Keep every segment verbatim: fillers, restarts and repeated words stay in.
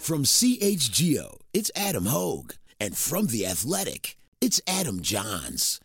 From C H G O, it's Adam Hogue. And from The Athletic, it's Adam Johns.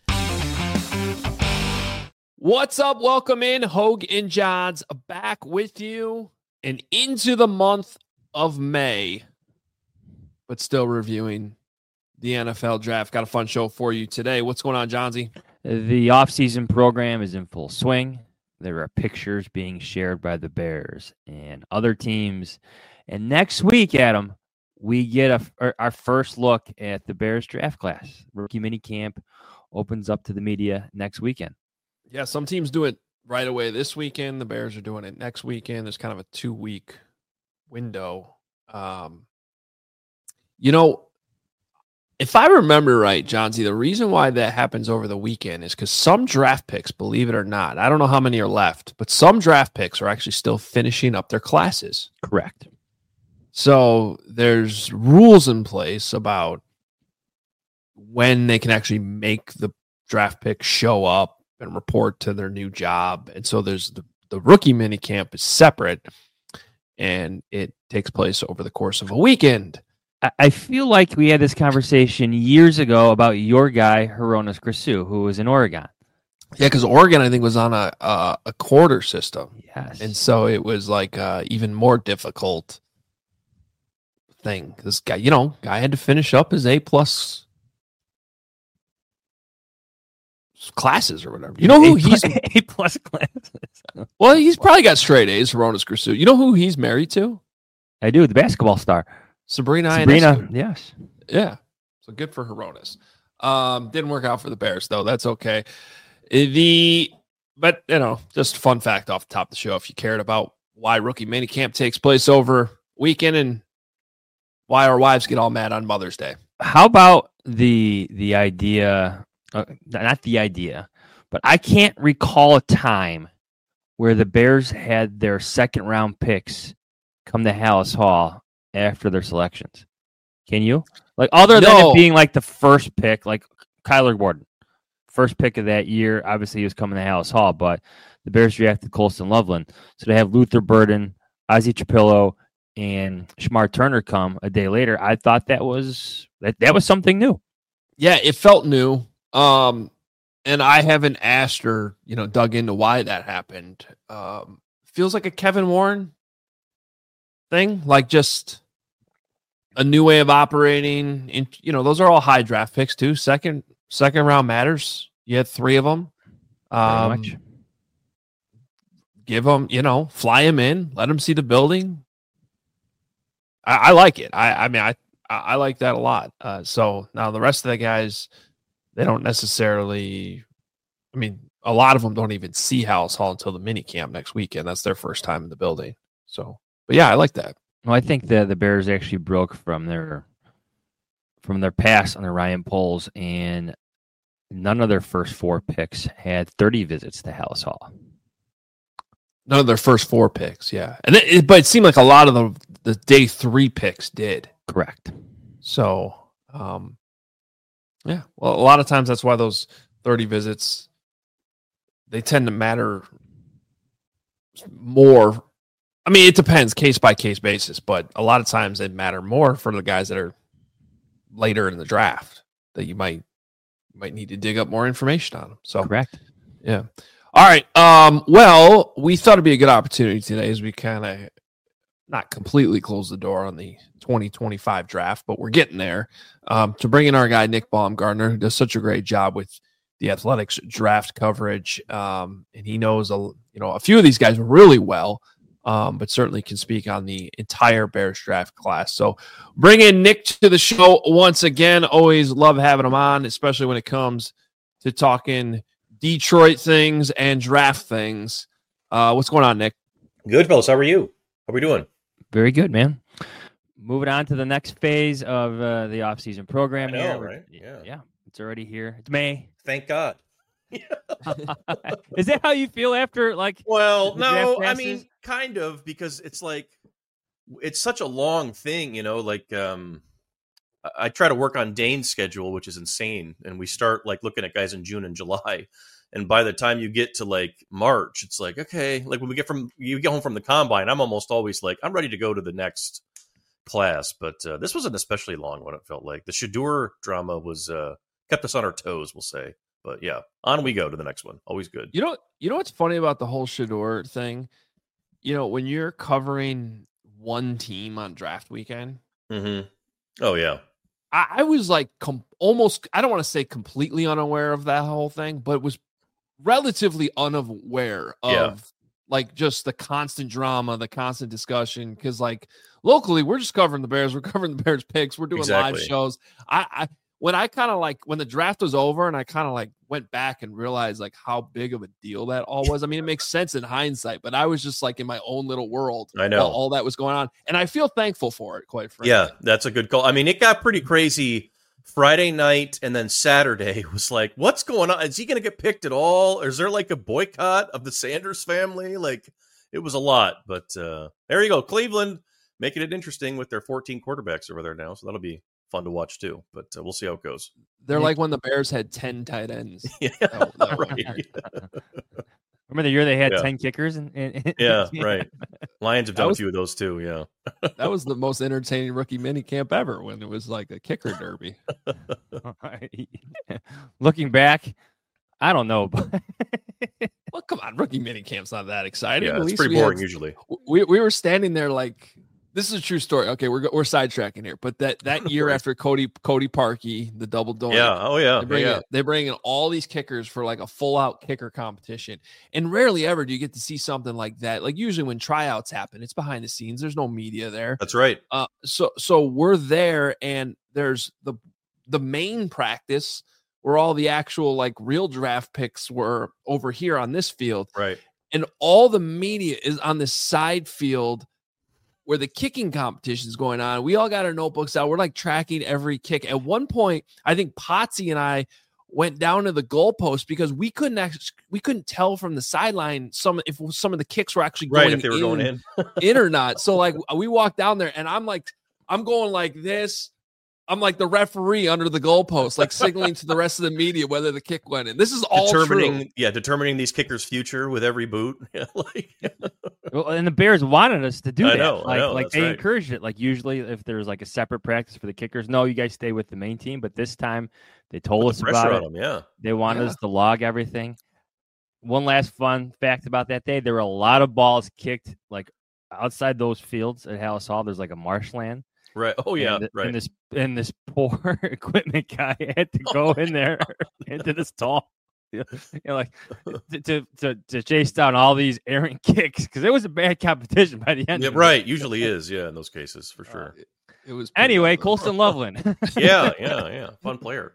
What's up? Welcome in. Hogue and Johns back with you and into the month of May, but still reviewing the N F L draft. Got a fun show for you today. What's going on, Johnsy? The offseason program is in full swing. There are pictures being shared by the Bears and other teams. And next week, Adam, we get a, our first look at the Bears draft class. Rookie minicamp opens up to the media next weekend. Yeah, some teams do it right away this weekend. The Bears are doing it next weekend. There's kind of a two-week window. Um, you know, if I remember right, Johnsy, the reason why that happens over the weekend is because some draft picks, believe it or not, I don't know how many are left, but some draft picks are actually still finishing up their classes. Correct. So there's rules in place about when they can actually make the draft pick show up and report to their new job. And so there's the, the rookie mini camp is separate, and it takes place over the course of a weekend. I feel like we had this conversation years ago about your guy, Hronis Grasu, who was in Oregon. Yeah, because Oregon, I think, was on a, a a quarter system. Yes. And so it was like uh, even more difficult thing. This guy, you know, guy had to finish up his A plus classes or whatever. You know who A he's A plus classes. Well, he's probably got straight A's, Hronis Grasu. You know who he's married to? I do, the basketball star. Sabrina. Sabrina, Ionescu. yes. Yeah. So good for Hronis. Um, didn't work out for the Bears, though. That's okay. The But, you know, just a fun fact off the top of the show, if you cared about why rookie minicamp takes place over weekend and why our wives get all mad on Mother's Day. How about the the idea, uh, not the idea, but I can't recall a time where the Bears had their second round picks come to Hallis Hall after their selections. Can you? Like, other than No. it being like the first pick, like Kyler Gordon, first pick of that year, obviously he was coming to Hallis Hall, but the Bears drafted Colston Loveland. So they have Luther Burden, Ozzie Trapillo, and Shamar Turner come a day later. I thought that was that, that was something new. Yeah, it felt new. Um, and I haven't asked or, you know, dug into why that happened. Um, feels like a Kevin Warren thing, like just a new way of operating. In, you know, those are all high draft picks too. Second, second round matters. You had three of them. Um, much. Give them, you know, fly them in, let them see the building. I, I like it. I, I mean, I, I like that a lot. Uh, so now the rest of the guys, they don't necessarily, I mean, a lot of them don't even see Hallis Hall until the mini camp next weekend. That's their first time in the building. So, but yeah, I like that. Well, I think the the Bears actually broke from their from their pass on the Ryan Poles, and none of their first four picks had thirty visits to Hallis Hall. None of their first four picks, yeah. And it, it, but it seemed like a lot of the the day three picks did. Correct. So, um, yeah. Well, a lot of times that's why those thirty visits, they tend to matter more. I mean, it depends case by case basis, but a lot of times they matter more for the guys that are later in the draft that you might might need to dig up more information on them. So, correct. Yeah. All right. Um, well, we thought it'd be a good opportunity today as we kind of not completely close the door on the twenty twenty-five draft, but we're getting there, um, to bring in our guy, Nick Baumgardner, who does such a great job with the Athletics draft coverage. Um, and he knows, a, you know, a few of these guys really well, um, but certainly can speak on the entire Bears draft class. So bring in Nick to the show once again. Always love having him on, especially when it comes to talking Detroit things and draft things. Uh, what's going on, Nick? Good, fellas. How are you? How are we doing? Very good, man. Moving on to the next phase of uh, the offseason program. I know, here. right? Yeah. Yeah. It's already here. It's May. Thank God. Is that how you feel after, like, Well, the no, draft I passes? mean, kind of, because it's like, it's such a long thing, you know, like, um, I- I try to work on Dane's schedule, which is insane. And we start like looking at guys in June and July. And by the time you get to like March, it's like, okay, like when we get from, you get home from the combine, I'm almost always like, I'm ready to go to the next, class, but uh, this was an especially long one. It felt like the Shedeur drama was uh, kept us on our toes, we'll say. But yeah, on we go to the next one. Always good. You know, you know what's funny about the whole Shedeur thing? You know, when you're covering one team on draft weekend. Mm-hmm. Oh yeah. I, I was like com- almost, I don't want to say completely unaware of that whole thing, but was relatively unaware of Yeah. like just the constant drama, the constant discussion. Cause like locally, we're just covering the Bears. We're covering the Bears picks. We're doing Exactly. live shows. I, I when I kind of like when the draft was over and I kind of like went back and realized like how big of a deal that all was. I mean, it makes sense in hindsight, but I was just like in my own little world. I know while all that was going on. And I feel thankful for it, quite frankly. Yeah, that's a good call. I mean, it got pretty crazy Friday night, and then Saturday was like, what's going on? Is he going to get picked at all? Or is there like a boycott of the Sanders family? Like, it was a lot. But uh, there you go. Cleveland making it interesting with their fourteen quarterbacks over there now. So that'll be fun to watch too. But uh, we'll see how it goes. They're like when the Bears had ten tight ends. Yeah, that, that right. Remember the year they had Yeah. ten kickers? And, and Yeah, right. Lions have That done was- a few of those too. Yeah. That was the most entertaining rookie mini camp ever when it was like a kicker derby. Looking back, I don't know. But Well, come on, rookie mini camp's not that exciting. Yeah, At it's least pretty we boring had- usually. we we were standing there like this is a true story. Okay, we're we're sidetracking here, but that that year Right. after Cody Cody Parkey, the double doink, Yeah. Oh, yeah. they bring yeah. in, they bring in all these kickers for like a full out kicker competition, and rarely ever do you get to see something like that. Like usually when tryouts happen, it's behind the scenes. There's no media there. That's right. Uh, so so we're there, and there's the the main practice where all the actual like real draft picks were over here on this field, Right. and all the media is on this side field where the kicking competition is going on. We all got our notebooks out. We're like tracking every kick. At one point, I think Potsy and I went down to the goalpost because we couldn't actually we couldn't tell from the sideline some if some of the kicks were actually Right. going If they were in, going in. in or not. So like we walked down there and I'm like I'm going like this. I'm like the referee under the goalpost, like signaling to the rest of the media whether the kick went in. This is all determining, true. yeah, determining these kickers' future with every boot. Yeah, like, well, and the Bears wanted us to do I that. know, I like, know, like that's they right. encouraged it. Like usually, if there's like a separate practice for the kickers, no, you guys stay with the main team. But this time, they told put us the pressure about on it. them. Yeah. They wanted Yeah. us to log everything. One last fun fact about that day: there were a lot of balls kicked like outside those fields at Hallis Hall. There's like a marshland. Right. Oh yeah. and, right. And this and this poor equipment guy had to go in there into the stall, you know, like to, to to chase down all these errant kicks because it was a bad competition by the end. Yeah, of it. right. Usually is. Yeah. In those cases, for sure. Uh, it, it was pretty Anyway, ugly. Colston Loveland. yeah. Yeah. Yeah. Fun player.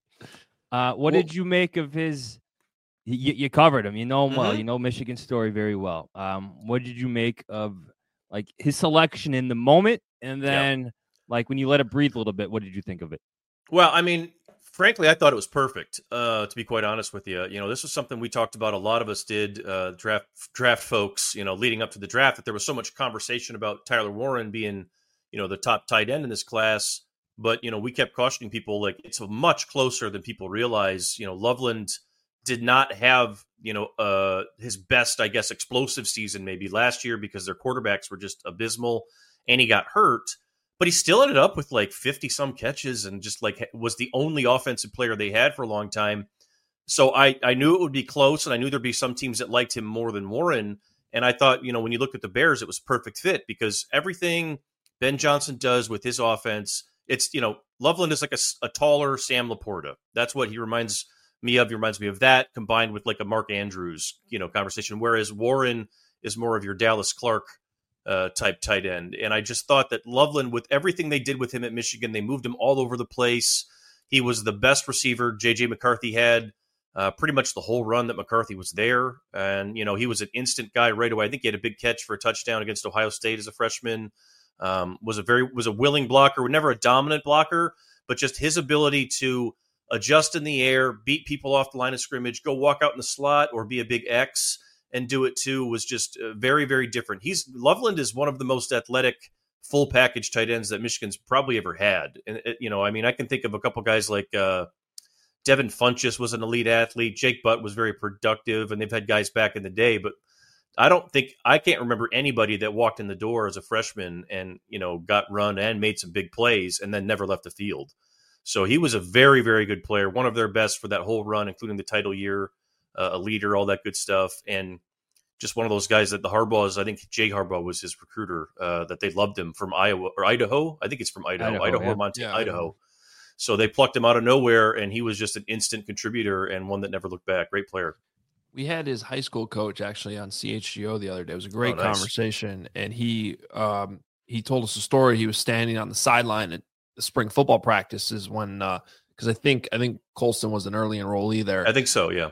Uh, what Well- did you make of his? You, you covered him. You know him well. Mhm. You know Michigan's story very well. Um, what did you make of like his selection in the moment, and then like when you let it breathe a little bit? What did you think of it? Well, I mean, frankly, I thought it was perfect. Uh, to be quite honest with you, you know, this was something we talked about. A lot of us did uh, draft draft folks. You know, leading up to the draft, that there was so much conversation about Tyler Warren being, you know, the top tight end in this class. But you know, we kept cautioning people like it's much closer than people realize. You know, Loveland did not have, you know, uh, his best, I guess, explosive season maybe last year because their quarterbacks were just abysmal, and he got hurt. But he still ended up with like fifty some catches and just like was the only offensive player they had for a long time. So I, I knew it would be close, and I knew there'd be some teams that liked him more than Warren. And I thought, you know, when you look at the Bears, it was perfect fit because everything Ben Johnson does with his offense, it's, you know, Loveland is like a, a taller Sam Laporta. That's what he reminds me of. He reminds me of that combined with like a Mark Andrews, you know, conversation. Whereas Warren is more of your Dallas Clark uh, type tight end. And I just thought that Loveland, with everything they did with him at Michigan, they moved him all over the place. He was the best receiver J J McCarthy had uh, pretty much the whole run that McCarthy was there. And, you know, he was an instant guy right away. I think he had a big catch for a touchdown against Ohio State as a freshman. Um, was a very, was a willing blocker, never a dominant blocker, but just his ability to adjust in the air, beat people off the line of scrimmage, go walk out in the slot or be a big X and do it too was just uh, very, very different. He's Loveland is one of the most athletic full package tight ends that Michigan's probably ever had. And, it, you know, I mean, I can think of a couple guys like uh, Devin Funchess was an elite athlete. Jake Butt was very productive, and they've had guys back in the day. But I don't think I can't remember anybody that walked in the door as a freshman and, you know, got run and made some big plays and then never left the field. So he was a very, very good player, one of their best for that whole run, including the title year, uh, a leader, all that good stuff. And just one of those guys that the Harbaughs, I think Jay Harbaugh was his recruiter, uh, that they loved him from Iowa or Idaho. I think it's from Idaho, Idaho, Idaho yeah. or Montana, Yeah, Idaho. Idaho. So they plucked him out of nowhere, and he was just an instant contributor and one that never looked back. Great player. We had his high school coach actually on C H G O the other day. It was a great Oh, nice. conversation, and he um, he told us a story. He was standing on the sideline at the spring football practices when because uh, I think I think Colston was an early enrollee there. I think so, yeah.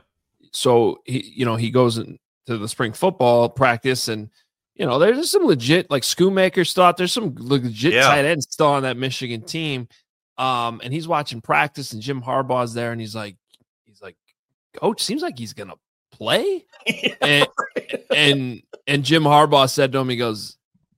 So he you know he goes into the spring football practice, and you know there's some legit like Schoonmaker still out. There's some legit Yeah. tight ends still on that Michigan team. Um, and he's watching practice, and Jim Harbaugh's there, and he's like, he's like, Coach, seems like he's gonna play. Yeah, and, right. and and Jim Harbaugh said to him, he goes,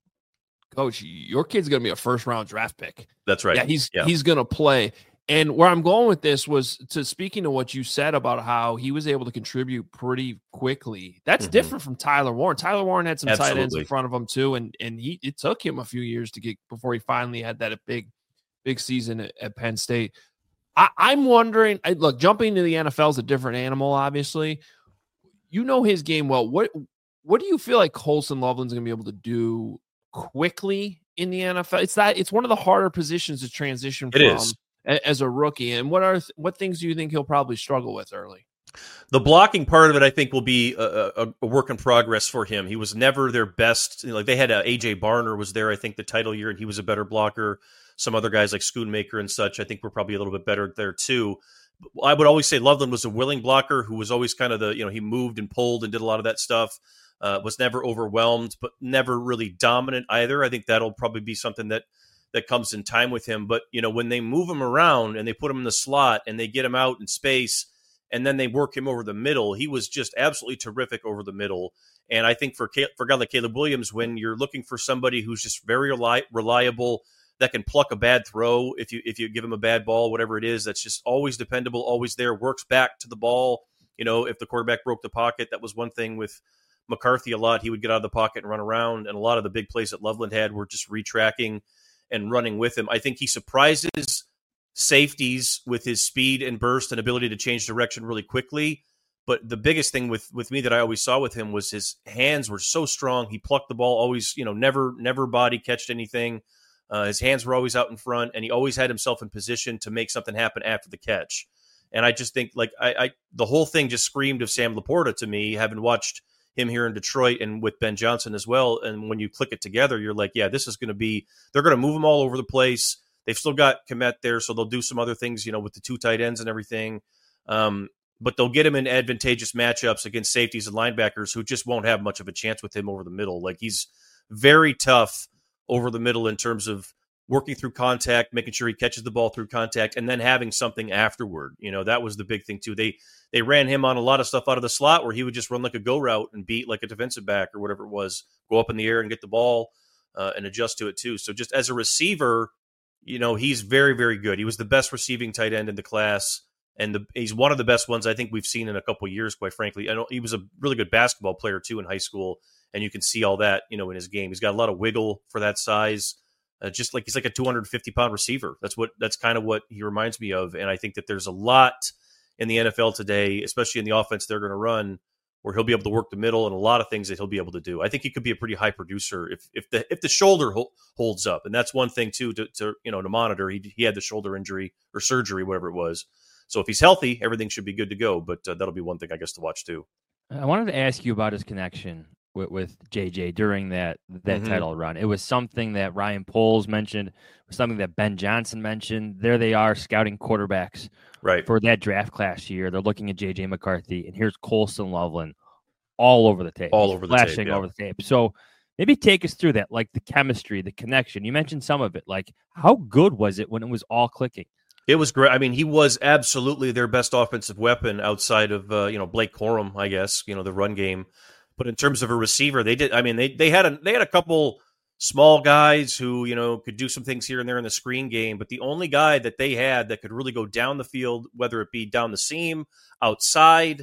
Coach, your kid's gonna be a first round draft pick. That's right. Yeah, he's Yeah. he's gonna play. And where I'm going with this was to speaking to what you said about how he was able to contribute pretty quickly. That's Mhm. different from Tyler Warren. Tyler Warren had some tight ends Absolutely. in front of him too, and and he it took him a few years to get before he finally had that big. Big season at, at Penn State. I, I'm wondering, I, look, jumping to the N F L is a different animal, obviously. You know his game well. What what do you feel like Colston Loveland's going to be able to do quickly in the N F L? It's that it's one of the harder positions to transition It from is. a, as a rookie. And what are what things do you think he'll probably struggle with early? The blocking part of it, I think, will be a, a, a work in progress for him. He was never their best. Like they had a, A J Barner was there, I think, the title year, and he was a better blocker. Some other guys like Schoonmaker and such, I think, were probably a little bit better there too. I would always say Loveland was a willing blocker who was always kind of the, you know, he moved and pulled and did a lot of that stuff. Uh, was never overwhelmed, but never really dominant either. I think that'll probably be something that that comes in time with him. But, you know, when they move him around and they put him in the slot and they get him out in space and then they work him over the middle, he was just absolutely terrific over the middle. And I think for for a guy like Caleb Williams, when you're looking for somebody who's just very reli- reliable, that can pluck a bad throw if you if you give him a bad ball, whatever it is, that's just always dependable, always there, works back to the ball. You know, if the quarterback broke the pocket, that was one thing with McCarthy a lot. He would get out of the pocket and run around, and a lot of the big plays that Loveland had were just retracking and running with him. I think he surprises safeties with his speed and burst and ability to change direction really quickly. But the biggest thing with, with me that I always saw with him was his hands were so strong. He plucked the ball always, you know, never never body catched anything. Uh, his hands were always out in front, and he always had himself in position to make something happen after the catch. And I just think, like, I, I the whole thing just screamed of Sam Laporta to me, having watched him here in Detroit and with Ben Johnson as well. And when you click it together, you're like, yeah, this is going to be – they're going to move him all over the place. They've still got Kmet there, so they'll do some other things, you know, with the two tight ends and everything. Um, but they'll get him in advantageous matchups against safeties and linebackers who just won't have much of a chance with him over the middle. Like, he's very tough over the middle in terms of working through contact, making sure he catches the ball through contact, and then having something afterward. You know, that was the big thing too. They they ran him on a lot of stuff out of the slot where he would just run like a go route and beat like a defensive back or whatever it was, go up in the air and get the ball uh, and adjust to it too. So just as a receiver, you know, he's very, very good. He was the best receiving tight end in the class, and the, he's one of the best ones I think we've seen in a couple of years, quite frankly. I know he was a really good basketball player too in high school, and you can see all that, you know, in his game. He's got a lot of wiggle for that size. Uh, just like he's like a two hundred fifty pound receiver. That's what that's kind of what he reminds me of. And I think that there's a lot in the N F L today, especially in the offense they're going to run, where he'll be able to work the middle and a lot of things that he'll be able to do. I think he could be a pretty high producer if if the if the shoulder ho- holds up, and that's one thing too to, to you know to monitor. He he had the shoulder injury or surgery, whatever it was. So if he's healthy, everything should be good to go. But uh, that'll be one thing I guess to watch too. I wanted to ask you about his connection with, with J J during that that Mhm. title run. It was something that Ryan Poles mentioned, it was something that Ben Johnson mentioned. There they are scouting quarterbacks Right. for that draft class year. They're looking at J J McCarthy, and here's Colston Loveland all over the tape. All He's over the tape, flashing yeah. over the tape. So maybe take us through that, like the chemistry, the connection. You mentioned some of it. Like, how good was it when it was all clicking? It was great. I mean, he was absolutely their best offensive weapon outside of uh, you know Blake Corum, I guess, you know, the run game. But in terms of a receiver, they did. I mean, they they had a they had a couple small guys who you know could do some things here and there in the screen game. But the only guy that they had that could really go down the field, whether it be down the seam, outside,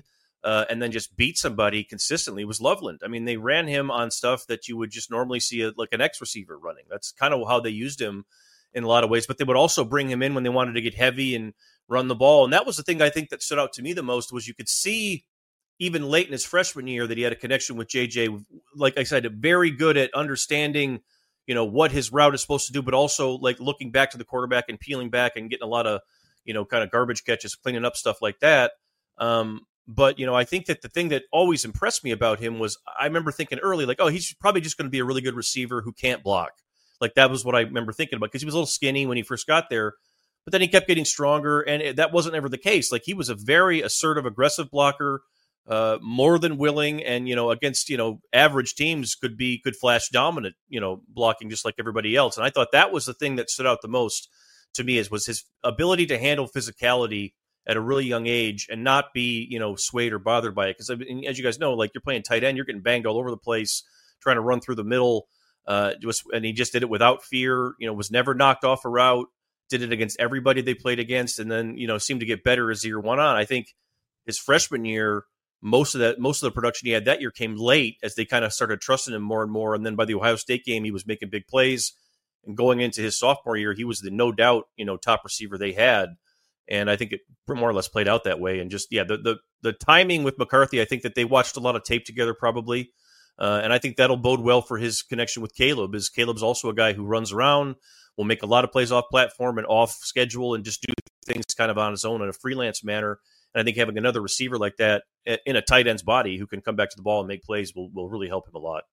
uh, and then just beat somebody consistently was Loveland. I mean, they ran him on stuff that you would just normally see a, like an X receiver running. That's kind of how they used him in a lot of ways, but they would also bring him in when they wanted to get heavy and run the ball. And that was the thing I think that stood out to me the most was you could see even late in his freshman year that he had a connection with J J. Like I said, very good at understanding, you know, what his route is supposed to do, but also like looking back to the quarterback and peeling back and getting a lot of, you know, kind of garbage catches, cleaning up stuff like that. Um, but, you know, I think that the thing that always impressed me about him was I remember thinking early, like, oh, he's probably just going to be a really good receiver who can't block. Like that was what I remember thinking about because he was a little skinny when he first got there, but then he kept getting stronger, and it, that wasn't ever the case. Like he was a very assertive, aggressive blocker, uh, more than willing, and you know against you know average teams could be could flash dominant, you know, blocking just like everybody else. And I thought that was the thing that stood out the most to me is was his ability to handle physicality at a really young age and not be you know swayed or bothered by it. Because I mean, as you guys know, like you're playing tight end, you're getting banged all over the place, trying to run through the middle. Uh, just, and he just did it without fear, you know, was never knocked off a route, did it against everybody they played against, and then, you know, seemed to get better as the year went on. I think his freshman year, most of that, most of the production he had that year came late as they kind of started trusting him more and more. And then by the Ohio State game, he was making big plays. And going into his sophomore year, he was the no doubt, you know, top receiver they had. And I think it more or less played out that way. And just, yeah, the the, the timing with McCarthy, I think that they watched a lot of tape together probably. Uh, and I think that'll bode well for his connection with Caleb, is Caleb's also a guy who runs around, will make a lot of plays off platform and off schedule and just do things kind of on his own in a freelance manner. And I think having another receiver like that in a tight end's body who can come back to the ball and make plays will, will really help him a lot.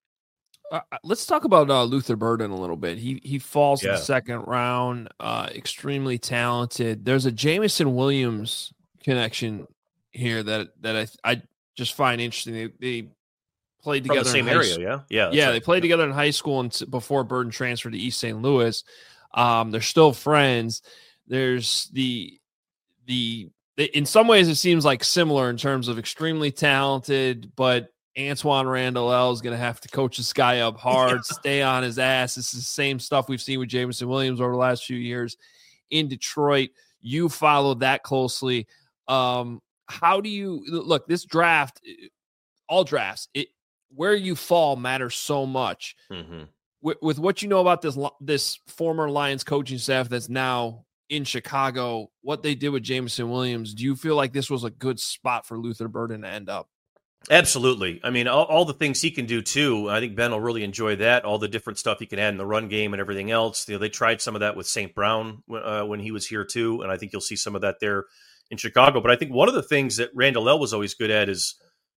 Uh, let's talk about uh, Luther Burden a little bit. He he falls Yeah. in the second round, uh, extremely talented. There's a Jameson Williams connection here that that I I just find interesting. They, they played From together the same in high area, s- yeah? Yeah. that's Yeah, right. they played together in high school and s- before Burden transferred to East Saint Louis. Um, they're still friends. There's the the in some ways it seems like similar in terms of extremely talented, but Antoine Randall L is going to have to coach this guy up hard, stay on his ass. This is the same stuff we've seen with Jameson Williams over the last few years in Detroit. You followed that closely. Um, how do you look? This draft, all drafts, it where you fall matters so much. Mhm. With, with what you know about this this former Lions coaching staff that's now in Chicago, what they did with Jameson Williams, do you feel like this was a good spot for Luther Burden to end up? Absolutely. I mean, all, all the things he can do too. I think Ben will really enjoy that. All the different stuff he can add in the run game and everything else. You know, they tried some of that with Saint Brown uh, when he was here too, and I think you'll see some of that there in Chicago. But I think one of the things that Randall L was always good at is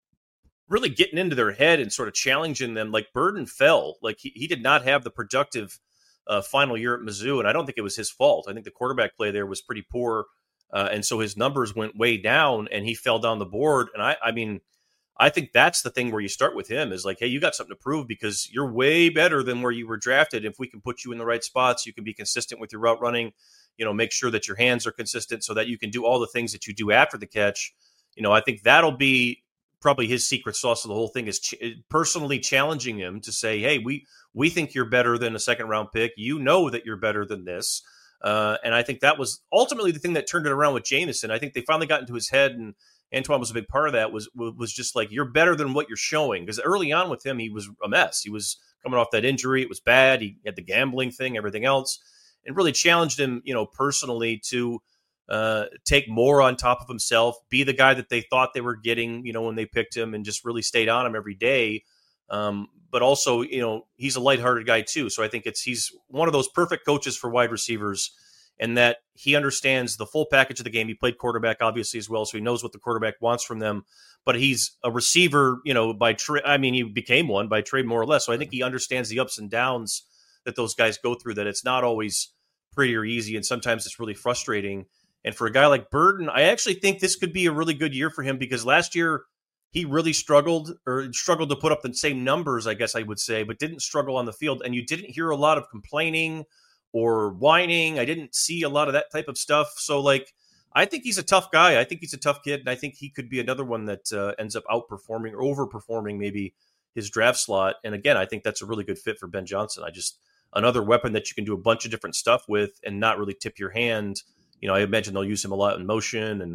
really getting into their head and sort of challenging them. Like Burden fell. Like he, he did not have the productive uh, final year at Mizzou, and I don't think it was his fault. I think the quarterback play there was pretty poor, uh, and so his numbers went way down, and he fell down the board. And I, I mean, I think that's the thing where you start with him is like, hey, you got something to prove because you're way better than where you were drafted. If we can put you in the right spots, you can be consistent with your route running, you know, make sure that your hands are consistent so that you can do all the things that you do after the catch. You know, I think that'll be probably his secret sauce of the whole thing is ch- personally challenging him to say, hey, we, we think you're better than a second round pick. You know that you're better than this. Uh, and I think that was ultimately the thing that turned it around with Jameson. I think they finally got into his head, and Antoine was a big part of that, was was just like, you're better than what you're showing. Because early on with him, he was a mess. He was coming off that injury. It was bad. He had the gambling thing, everything else, and really challenged him, you know, personally to uh, take more on top of himself, be the guy that they thought they were getting, you know, when they picked him, and just really stayed on him every day. Um, but also, you know, he's a lighthearted guy too. So I think it's he's one of those perfect coaches for wide receivers, and that he understands the full package of the game. He played quarterback obviously as well, so he knows what the quarterback wants from them. But he's a receiver, you know, by trade. I mean, he became one by trade more or less. So I think he understands the ups and downs that those guys go through. That it's not always pretty or easy, and sometimes it's really frustrating. And for a guy like Burden, I actually think this could be a really good year for him because last year he really struggled or struggled to put up the same numbers, I guess I would say, but didn't struggle on the field. And you didn't hear a lot of complaining or whining. I didn't see a lot of that type of stuff. So, like, I think he's a tough guy. I think he's a tough kid, and I think he could be another one that uh, ends up outperforming or overperforming maybe his draft slot. And again, I think that's a really good fit for Ben Johnson. I just another weapon that you can do a bunch of different stuff with and not really tip your hand. You know, I imagine they'll use him a lot in motion, and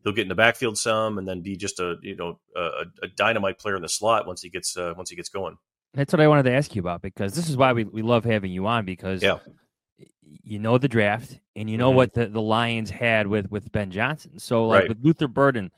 he'll get in the backfield some, and then be just a you know a, a dynamite player in the slot once he gets uh, once he gets going. That's what I wanted to ask you about, because this is why we, we love having you on, because Yeah. you know the draft and you know Mhm. what the, the Lions had with, with Ben Johnson. So like Right. with Luther Burden,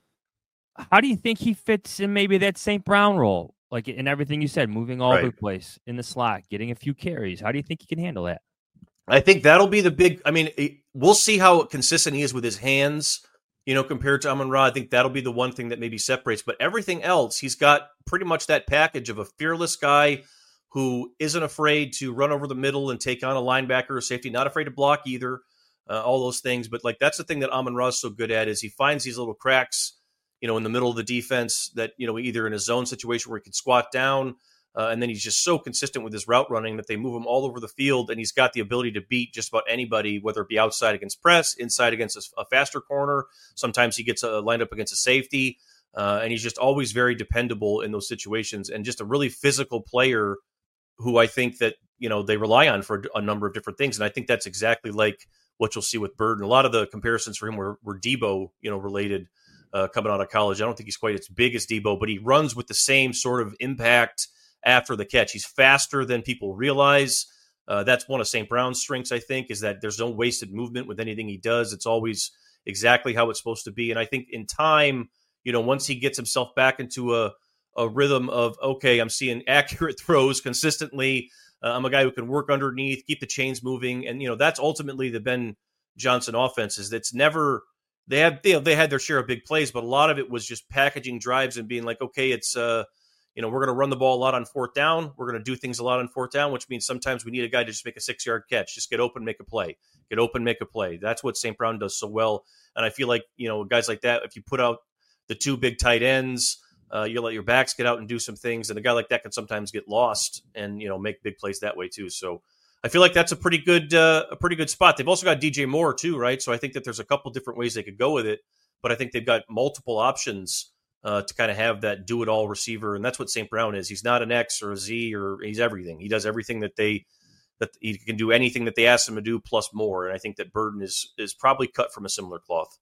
how do you think he fits in maybe that Saint Brown role? Like in everything you said, moving all over Right. the place in the slot, getting a few carries. How do you think he can handle that? I think that'll be the big. I mean, it, we'll see how consistent he is with his hands. You know, compared to Amon-Ra, I think that'll be the one thing that maybe separates. But everything else, he's got pretty much that package of a fearless guy who isn't afraid to run over the middle and take on a linebacker or safety, not afraid to block either. Uh, all those things, but like that's the thing that Amon-Ra is so good at, is he finds these little cracks, you know, in the middle of the defense that, you know, either in a zone situation where he can squat down, uh, and then he's just so consistent with his route running that they move him all over the field, and he's got the ability to beat just about anybody, whether it be outside against press, inside against a, a faster corner. Sometimes he gets uh, lined up against a safety, uh, and he's just always very dependable in those situations, and just a really physical player who I think that, you know, they rely on for a number of different things. And I think that's exactly like what you'll see with Burden. A lot of the comparisons for him were, were Debo, you know, related uh, coming out of college. I don't think he's quite as big as Debo, but he runs with the same sort of impact after the catch. He's faster than people realize. Uh, that's one of Saint Brown's strengths, I think, is that there's no wasted movement with anything he does. It's always exactly how it's supposed to be. And I think in time, you know, once he gets himself back into a, a rhythm of, okay, I'm seeing accurate throws consistently. Uh, I'm a guy who can work underneath, keep the chains moving. And, you know, that's ultimately the Ben Johnson offense, is that's never, they had, they, they had their share of big plays, but a lot of it was just packaging drives and being like, okay, it's, uh, you know, we're going to run the ball a lot on fourth down. We're going to do things a lot on fourth down, which means sometimes we need a guy to just make a six-yard catch. Just get open, make a play. Get open, make a play. That's what Saint Brown does so well. And I feel like, you know, guys like that, if you put out the two big tight ends, uh, you let your backs get out and do some things, and a guy like that can sometimes get lost and, you know, make big plays that way too. So I feel like that's a pretty good, uh, a pretty good spot. They've also got D J Moore too, right? So I think that there's a couple different ways they could go with it, but I think they've got multiple options Uh, to kind of have that do-it-all receiver, and that's what Saint Brown is. He's not an X or a Z, or he's everything. He does everything that they that he can do, anything that they ask him to do plus more. And I think that Burden is is probably cut from a similar cloth.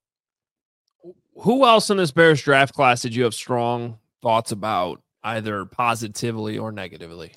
Who else in this Bears draft class did you have strong thoughts about, either positively or negatively?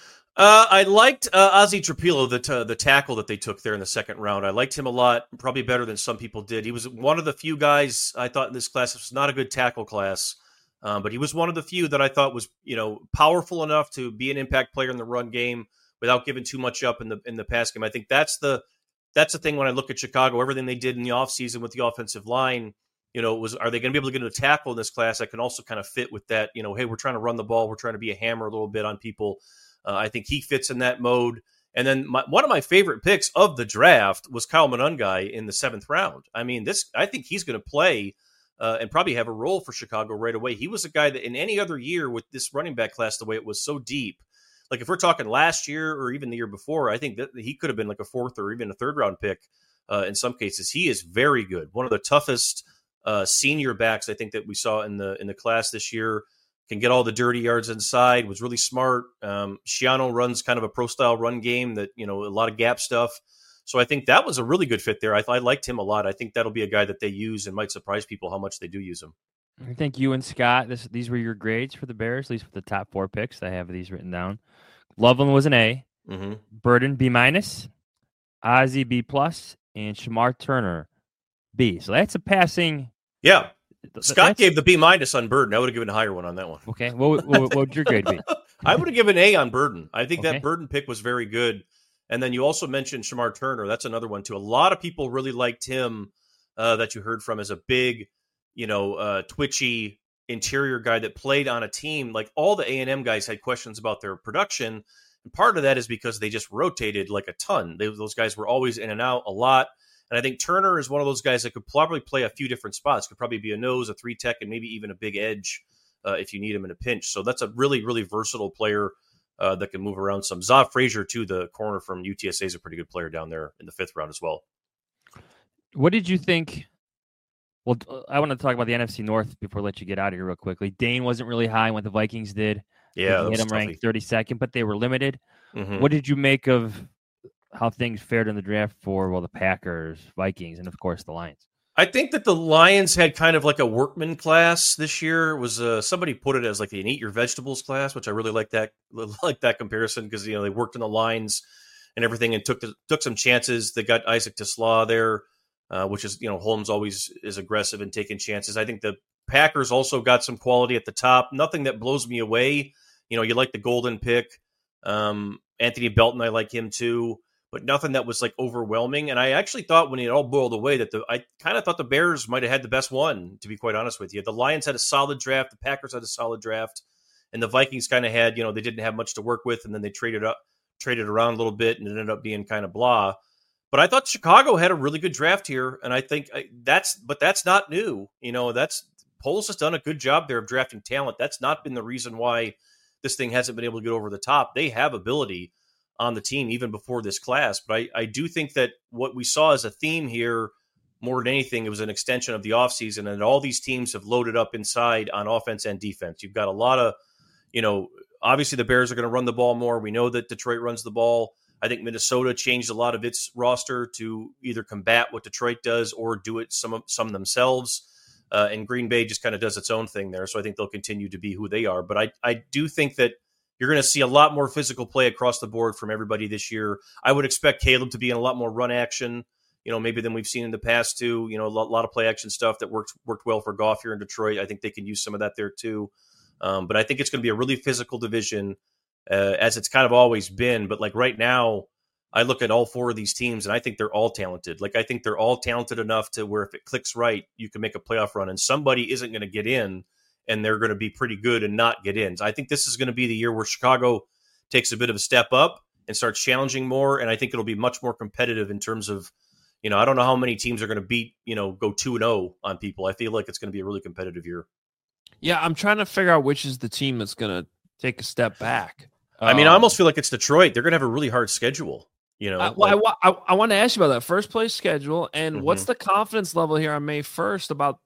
Uh, I liked uh, Ozzie Trapilo, the t- the tackle that they took there in the second round. I liked him a lot, probably better than some people did. He was one of the few guys I thought in this class. It was not a good tackle class, um, but he was one of the few that I thought was, you know, powerful enough to be an impact player in the run game without giving too much up in the in the pass game. I think that's the that's the thing when I look at Chicago. Everything they did in the offseason with the offensive line, you know, was, are they going to be able to get a tackle in this class that can also kind of fit with that? You know, hey, we're trying to run the ball, we're trying to be a hammer a little bit on people. Uh, I think he fits in that mode. And then my, one of my favorite picks of the draft was Kyle Monangai in the seventh round. I mean, this I think he's going to play uh, and probably have a role for Chicago right away. He was a guy that in any other year with this running back class, the way it was so deep, like if we're talking last year or even the year before, I think that he could have been like a fourth or even a third round pick uh, in some cases. He is very good. One of the toughest uh, senior backs I think that we saw in the in the class this year. Can get all the dirty yards inside, was really smart. Um, Schiano runs kind of a pro-style run game that, you know, a lot of gap stuff. So I think that was a really good fit there. I, I liked him a lot. I think that'll be a guy that they use and might surprise people how much they do use him. I think you and Scott, this, these were your grades for the Bears, at least for the top four picks. I have these written down. Loveland was an A. Mm-hmm. Burden, B minus. Ozzie, B plus. And Shamar Turner, B. So that's a passing. Yeah. Scott That's, gave the B minus on Burden. I would have given a higher one on that one. okay. What, what, what would your grade be? I would have given A on Burden. I think Okay. that Burden pick was very good. And then you also mentioned Shamar Turner. That's another one, too. A lot of people really liked him uh, that you heard from as a big, you know, uh, twitchy interior guy that played on a team. Like all the A and M guys had questions about their production. And part of that is because they just rotated like a ton. They, those guys were always in and out a lot. And I think Turner is one of those guys that could probably play a few different spots. Could probably be a nose, a three tech, and maybe even a big edge uh, if you need him in a pinch. So that's a really, really versatile player uh, that can move around some. Zav Frazier, too, the corner from U T S A, is a pretty good player down there in the fifth round as well. What did you think? Well, I want to talk about the N F C North before I let you get out of here real quickly. Dane wasn't really high when the Vikings did. Yeah, he had him ranked thirty-second, but they were limited. Mm-hmm. What did you make of how things fared in the draft for, well, the Packers, Vikings, and, of course, the Lions? I think that the Lions had kind of like a workman class this year. It was uh, somebody put it as like an eat your vegetables class, which I really like that like that comparison because you know they worked in the lines and everything and took the, took some chances. They got Isaac Tesla there, uh, which is you know Holmes always is aggressive and taking chances. I think the Packers also got some quality at the top. Nothing that blows me away. You know, you like the golden pick, um, Anthony Belton. I like him too. But nothing that was like overwhelming. And I actually thought when it all boiled away that the I kind of thought the Bears might have had the best one, to be quite honest with you. The Lions had a solid draft, the Packers had a solid draft, and the Vikings kind of had, you know, they didn't have much to work with, and then they traded up, traded around a little bit, and it ended up being kind of blah. But I thought Chicago had a really good draft here, and I think that's, but that's not new. You know, that's Poles has done a good job there of drafting talent. That's not been the reason why this thing hasn't been able to get over the top. They have ability on the team even before this class. But I, I do think that what we saw as a theme here, more than anything, it was an extension of the offseason, and all these teams have loaded up inside on offense and defense. You've got a lot of, you know, obviously the Bears are going to run the ball more. We know that Detroit runs the ball. I think Minnesota changed a lot of its roster to either combat what Detroit does or do it some, some themselves. Uh, and Green Bay just kind of does its own thing there. So I think they'll continue to be who they are. But I, I do think that you're going to see a lot more physical play across the board from everybody this year. I would expect Caleb to be in a lot more run action, you know, maybe than we've seen in the past too. You know, a lot, lot of play action stuff that worked worked well for Goff here in Detroit. I think they can use some of that there too. Um, but I think it's going to be a really physical division, uh, as it's kind of always been. But like right now, I look at all four of these teams and I think they're all talented. Like I think they're all talented enough to where if it clicks right, you can make a playoff run, and somebody isn't going to get in, and they're going to be pretty good and not get in. So I think this is going to be the year where Chicago takes a bit of a step up and starts challenging more. And I think it'll be much more competitive in terms of, you know, I don't know how many teams are going to beat, you know, go two and oh on people. I feel like it's going to be a really competitive year. Yeah, I'm trying to figure out which is the team that's going to take a step back. I mean, um, I almost feel like it's Detroit. They're going to have a really hard schedule. You know, I, well, like, I, I, I want to ask you about that first place schedule and Mhm. what's the confidence level here on May first about,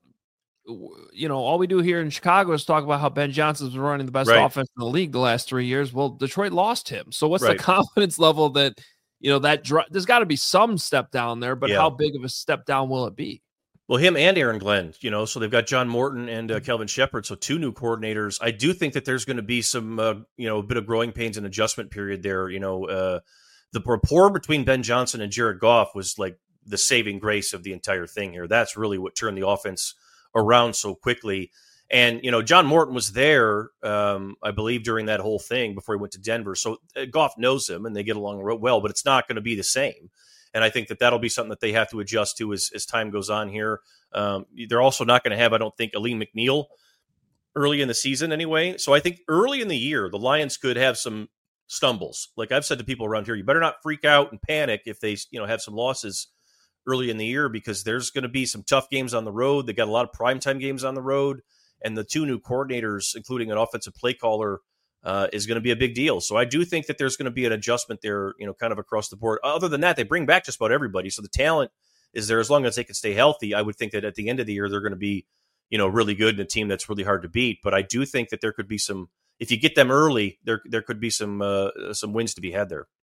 you know, all we do here in Chicago is talk about how Ben Johnson's been running the best Right. offense in the league the last three years. Well, Detroit lost him. So what's Right. the confidence level that, you know, that dr- there's got to be some step down there, but Yeah. how big of a step down will it be? Well, him and Aaron Glenn, you know, so they've got John Morton and uh, Kelvin Shepard, so two new coordinators. I do think that there's going to be some, uh, you know, a bit of growing pains and adjustment period there. You know, uh, the rapport between Ben Johnson and Jared Goff was like the saving grace of the entire thing here. That's really what turned the offense around so quickly. And, you know, John Morton was there, um, I believe, during that whole thing before he went to Denver. So uh, Goff knows him and they get along real well, but it's not going to be the same. And I think that that'll be something that they have to adjust to as, as time goes on here. Um, they're also not going to have, I don't think, Aleem McNeil early in the season anyway. So I think early in the year, the Lions could have some stumbles. Like I've said to people around here, you better not freak out and panic if they, you know, have some losses early in the year, because there's going to be some tough games on the road. They got a lot of primetime games on the road, and the two new coordinators, including an offensive play caller, uh, is going to be a big deal. So I do think that there's going to be an adjustment there, you know, kind of across the board. Other than that, they bring back just about everybody. So the talent is there as long as they can stay healthy. I would think that at the end of the year, they're going to be, you know, really good and a team that's really hard to beat. But I do think that there could be some, if you get them early, there there could be some uh, some wins to be had there.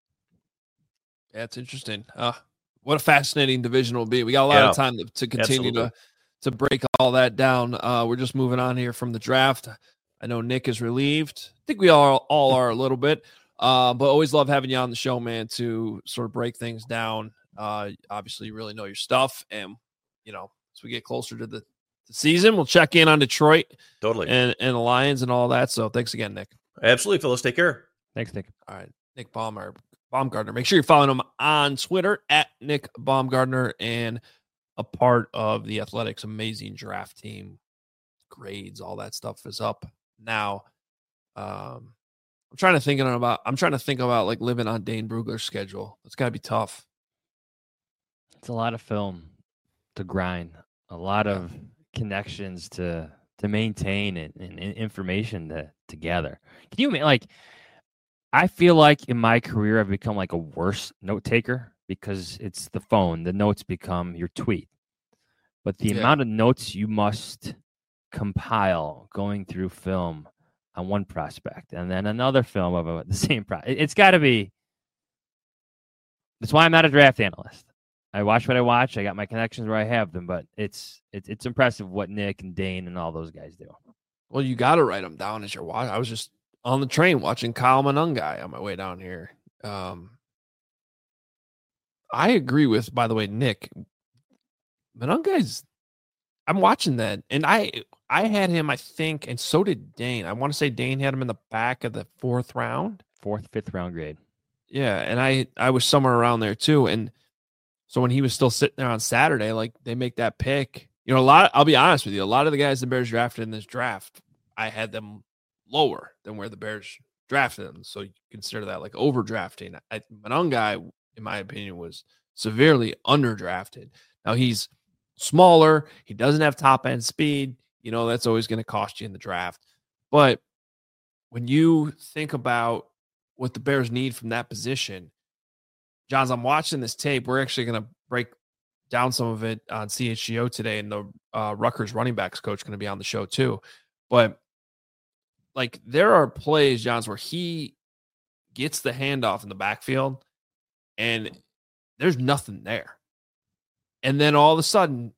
That's interesting. Uh, what a fascinating division will be. We got a lot Yeah, of time to, to continue absolutely. to to break all that down. Uh, we're just moving on here from the draft. I know Nick is relieved. I think we all all are a little bit, uh, but always love having you on the show, man, to sort of break things down. Uh, obviously, you really know your stuff, and you know as we get closer to the, the season, we'll check in on Detroit Totally. and and the Lions and all that. So thanks again, Nick. Absolutely, fellas. Take care. Thanks, Nick. All right, Nick Baumgar- Baumgartner. Make sure you're following him on Twitter at Nick Baumgartner and a part of the Athletics' amazing draft team. Grades, all that stuff is up now. Um, I'm trying to think about. I'm trying to think about like living on Dane Brugler's schedule. It's got to be tough. It's a lot of film to grind, a lot of connections to to maintain and, and, and information to to gather. Can you ima- like? I feel like in my career I've become like a worse note taker because it's the phone. The notes become your tweet, but the Yeah. amount of notes you must compile going through film on one prospect and then another film of a, the same pro. it- It's got to be. That's why I'm not a draft analyst. I watch what I watch. I got my connections where I have them, but it's it's it's impressive what Nick and Dane and all those guys do. Well, you got to write them down as you're watching. I was just on the train watching Kyle Monangai on my way down here. Um, I agree with, by the way, Nick. Monangai's, I'm watching that, and I I had him, I think, and so did Dane. I want to say Dane had him in the back of the fourth round. Fourth, fifth round grade. Yeah, and I I was somewhere around there too. And so when he was still sitting there on Saturday, like they make that pick. You know, a lot, I'll be honest with you, a lot of the guys the Bears drafted in this draft, I had them lower than where the Bears drafted them. So you consider that like overdrafting. I, Monangai, in my opinion, was severely underdrafted. Now he's smaller. He doesn't have top end speed. You know, that's always going to cost you in the draft. But when you think about what the Bears need from that position, Johns, I'm watching this tape. We're actually going to break down some of it on C H G O today, and the uh, Rutgers running backs coach going to be on the show too. But like there are plays, Johns, where he gets the handoff in the backfield and there's nothing there. And then all of a sudden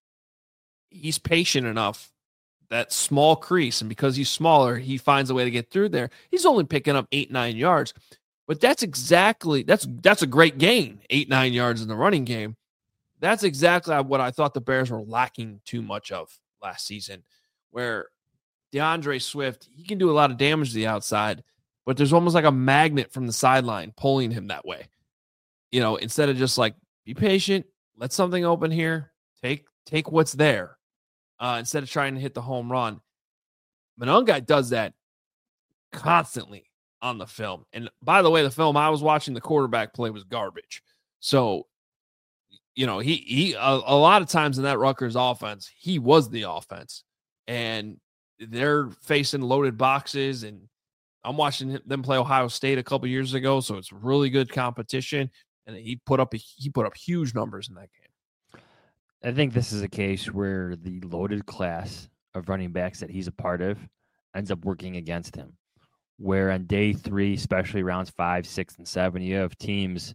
he's patient enough, that small crease, and because he's smaller, he finds a way to get through there. He's only picking up eight, nine yards, but that's exactly, that's, that's a great gain. Eight, nine yards in the running game. That's exactly what I thought the Bears were lacking too much of last season, where DeAndre Swift, he can do a lot of damage to the outside, but there's almost like a magnet from the sideline pulling him that way. You know, instead of just like, be patient, let something open here, take take what's there, uh, instead of trying to hit the home run. Monangai does that constantly on the film. And by the way, the film I was watching, the quarterback play was garbage. So, you know, he he a, a lot of times in that Rutgers offense, he was the offense, and they're facing loaded boxes. And I'm watching them play Ohio State a couple years ago, so it's really good competition. And he put up a, he put up huge numbers in that game. I think this is a case where the loaded class of running backs that he's a part of ends up working against him. Where on day three, especially rounds five, six, and seven, you have teams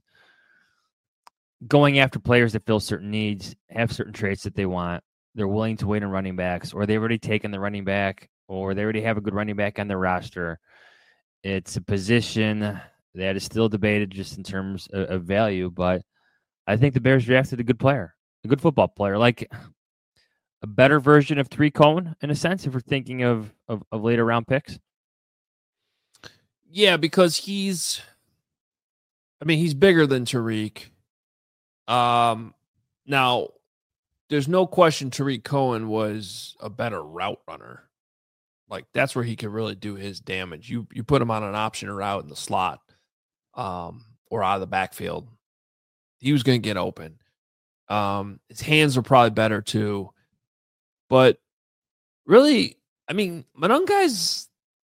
going after players that fill certain needs, have certain traits that they want. They're willing to wait on running backs, or they've already taken the running back, or they already have a good running back on their roster. It's a position that is still debated just in terms of, of value, but I think the Bears drafted a good player, a good football player, like a better version of Tariq Cohen, in a sense, if we're thinking of, of, of later round picks. Yeah, because he's, I mean, he's bigger than Tariq. Um, now, there's no question Tariq Cohen was a better route runner. Like, that's where he could really do his damage. You you put him on an option route in the slot, um, or out of the backfield, he was going to get open. Um, his hands were probably better too. But really, I mean, Monangai's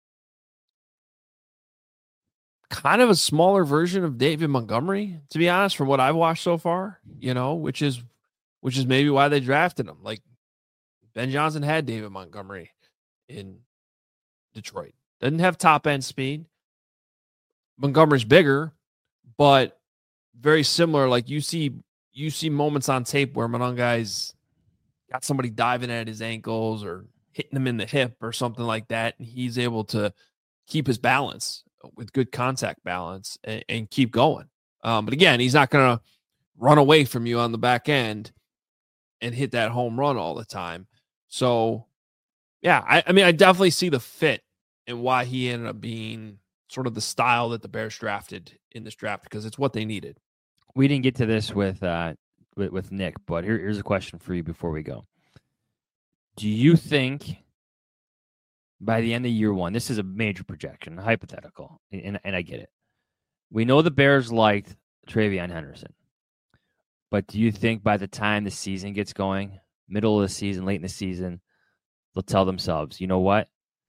kind of a smaller version of David Montgomery, to be honest, from what I've watched so far, you know, which is which is maybe why they drafted him. Like, Ben Johnson had David Montgomery in Detroit. Doesn't have top end speed. Montgomery's bigger, but very similar. Like you see, you see moments on tape where Monangai's got somebody diving at his ankles or hitting him in the hip or something like that, and he's able to keep his balance with good contact balance and, and keep going. Um, but again, he's not going to run away from you on the back end and hit that home run all the time. So, yeah, I, I mean, I definitely see the fit and why he ended up being sort of the style that the Bears drafted in this draft, because it's what they needed. We didn't get to this with uh, with, with Nick, but here, here's a question for you before we go. Do you think by the end of year one, this is a major projection, a hypothetical, and, and I get it. We know the Bears liked Travion Henderson, but do you think by the time the season gets going, middle of the season, late in the season, they'll tell themselves, you know what?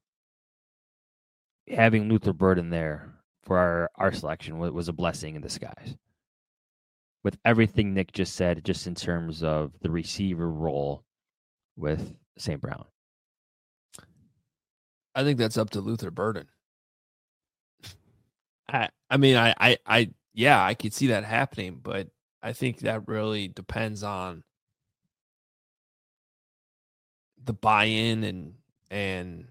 Having Luther Burden there for our, our selection was, was a blessing in disguise. With everything Nick just said, just in terms of the receiver role with Saint Brown. I think that's up to Luther Burden. I, I mean, I, I, I, yeah, I could see that happening, but I think that really depends on the buy-in and and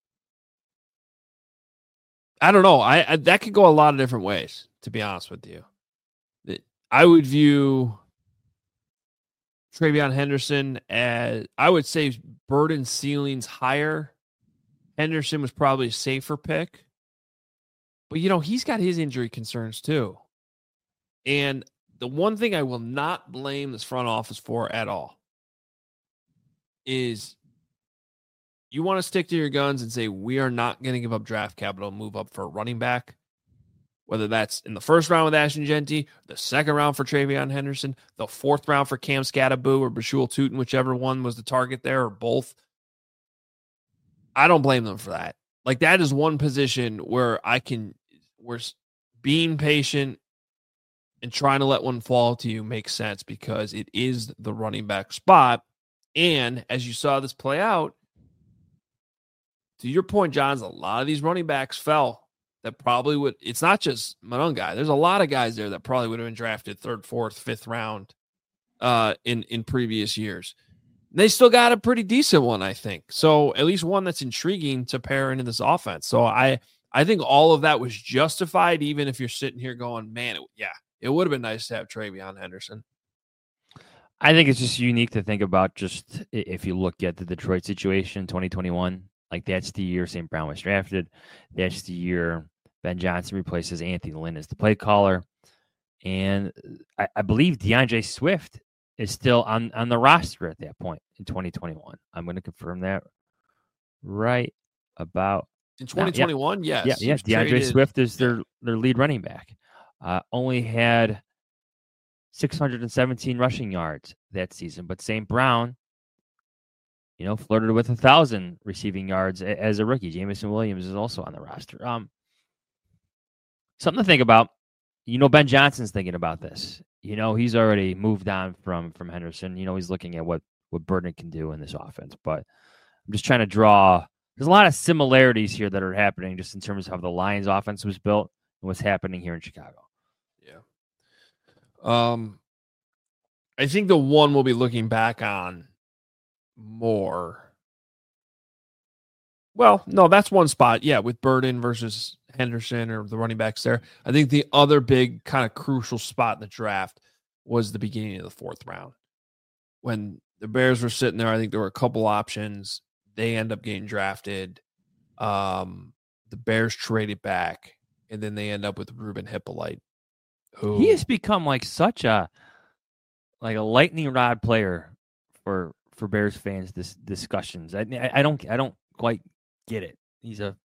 I don't know. I, I that could go a lot of different ways, to be honest with you. I would view TreVeyon Henderson as, I would say Burden's ceiling's higher. Henderson was probably a safer pick. But, you know, he's got his injury concerns too. And the one thing I will not blame this front office for at all is you want to stick to your guns and say, we are not going to give up draft capital and move up for a running back. Whether that's in the first round with Ashton Genty, the second round for TreVeyon Henderson, the fourth round for Cam Scattaboo or Bashul Tutin, whichever one was the target there, or both. I don't blame them for that. Like, that is one position where I can, where being patient and trying to let one fall to you makes sense because it is the running back spot. And as you saw this play out, to your point, Johns, a lot of these running backs fell. That probably would, it's not just Monongai. There's a lot of guys there that probably would have been drafted third, fourth, fifth round uh, in, in previous years. They still got a pretty decent one, I think. So at least one that's intriguing to pair into this offense. So I, I think all of that was justified, even if you're sitting here going, man, it, yeah, it would have been nice to have TreVeyon Henderson. I think it's just unique to think about just if you look at the Detroit situation, twenty twenty-one, like that's the year Saint Brown was drafted. That's the year Ben Johnson replaces Anthony Lynn as the play caller. And I, I believe DeAndre Swift is still on, on the roster at that point in twenty twenty-one. I'm going to confirm that right about in twenty twenty-one. Now. Yes. Yeah, yeah. DeAndre traded. Swift is their, their lead running back. Uh, only had six hundred seventeen rushing yards that season, but Saint Brown, you know, flirted with a thousand receiving yards as a rookie. Jameson Williams is also on the roster. Um, something to think about. You know, Ben Johnson's thinking about this. You know, he's already moved on from from Henderson. You know, he's looking at what what Burden can do in this offense. But I'm just trying to draw. There's a lot of similarities here that are happening just in terms of how the Lions offense was built and what's happening here in Chicago. Yeah. Um, I think the one we'll be looking back on more. Well, no, that's one spot. Yeah, with Burden versus Henderson or the running backs there. I think the other big kind of crucial spot in the draft was the beginning of the fourth round. When the Bears were sitting there, I think there were a couple options. They end up getting drafted. Um, the Bears traded back, and then they end up with Ruben Hippolyte. Who he has become like such a like a lightning rod player for for Bears fans. This discussions. I I don't I don't quite get it. He's a.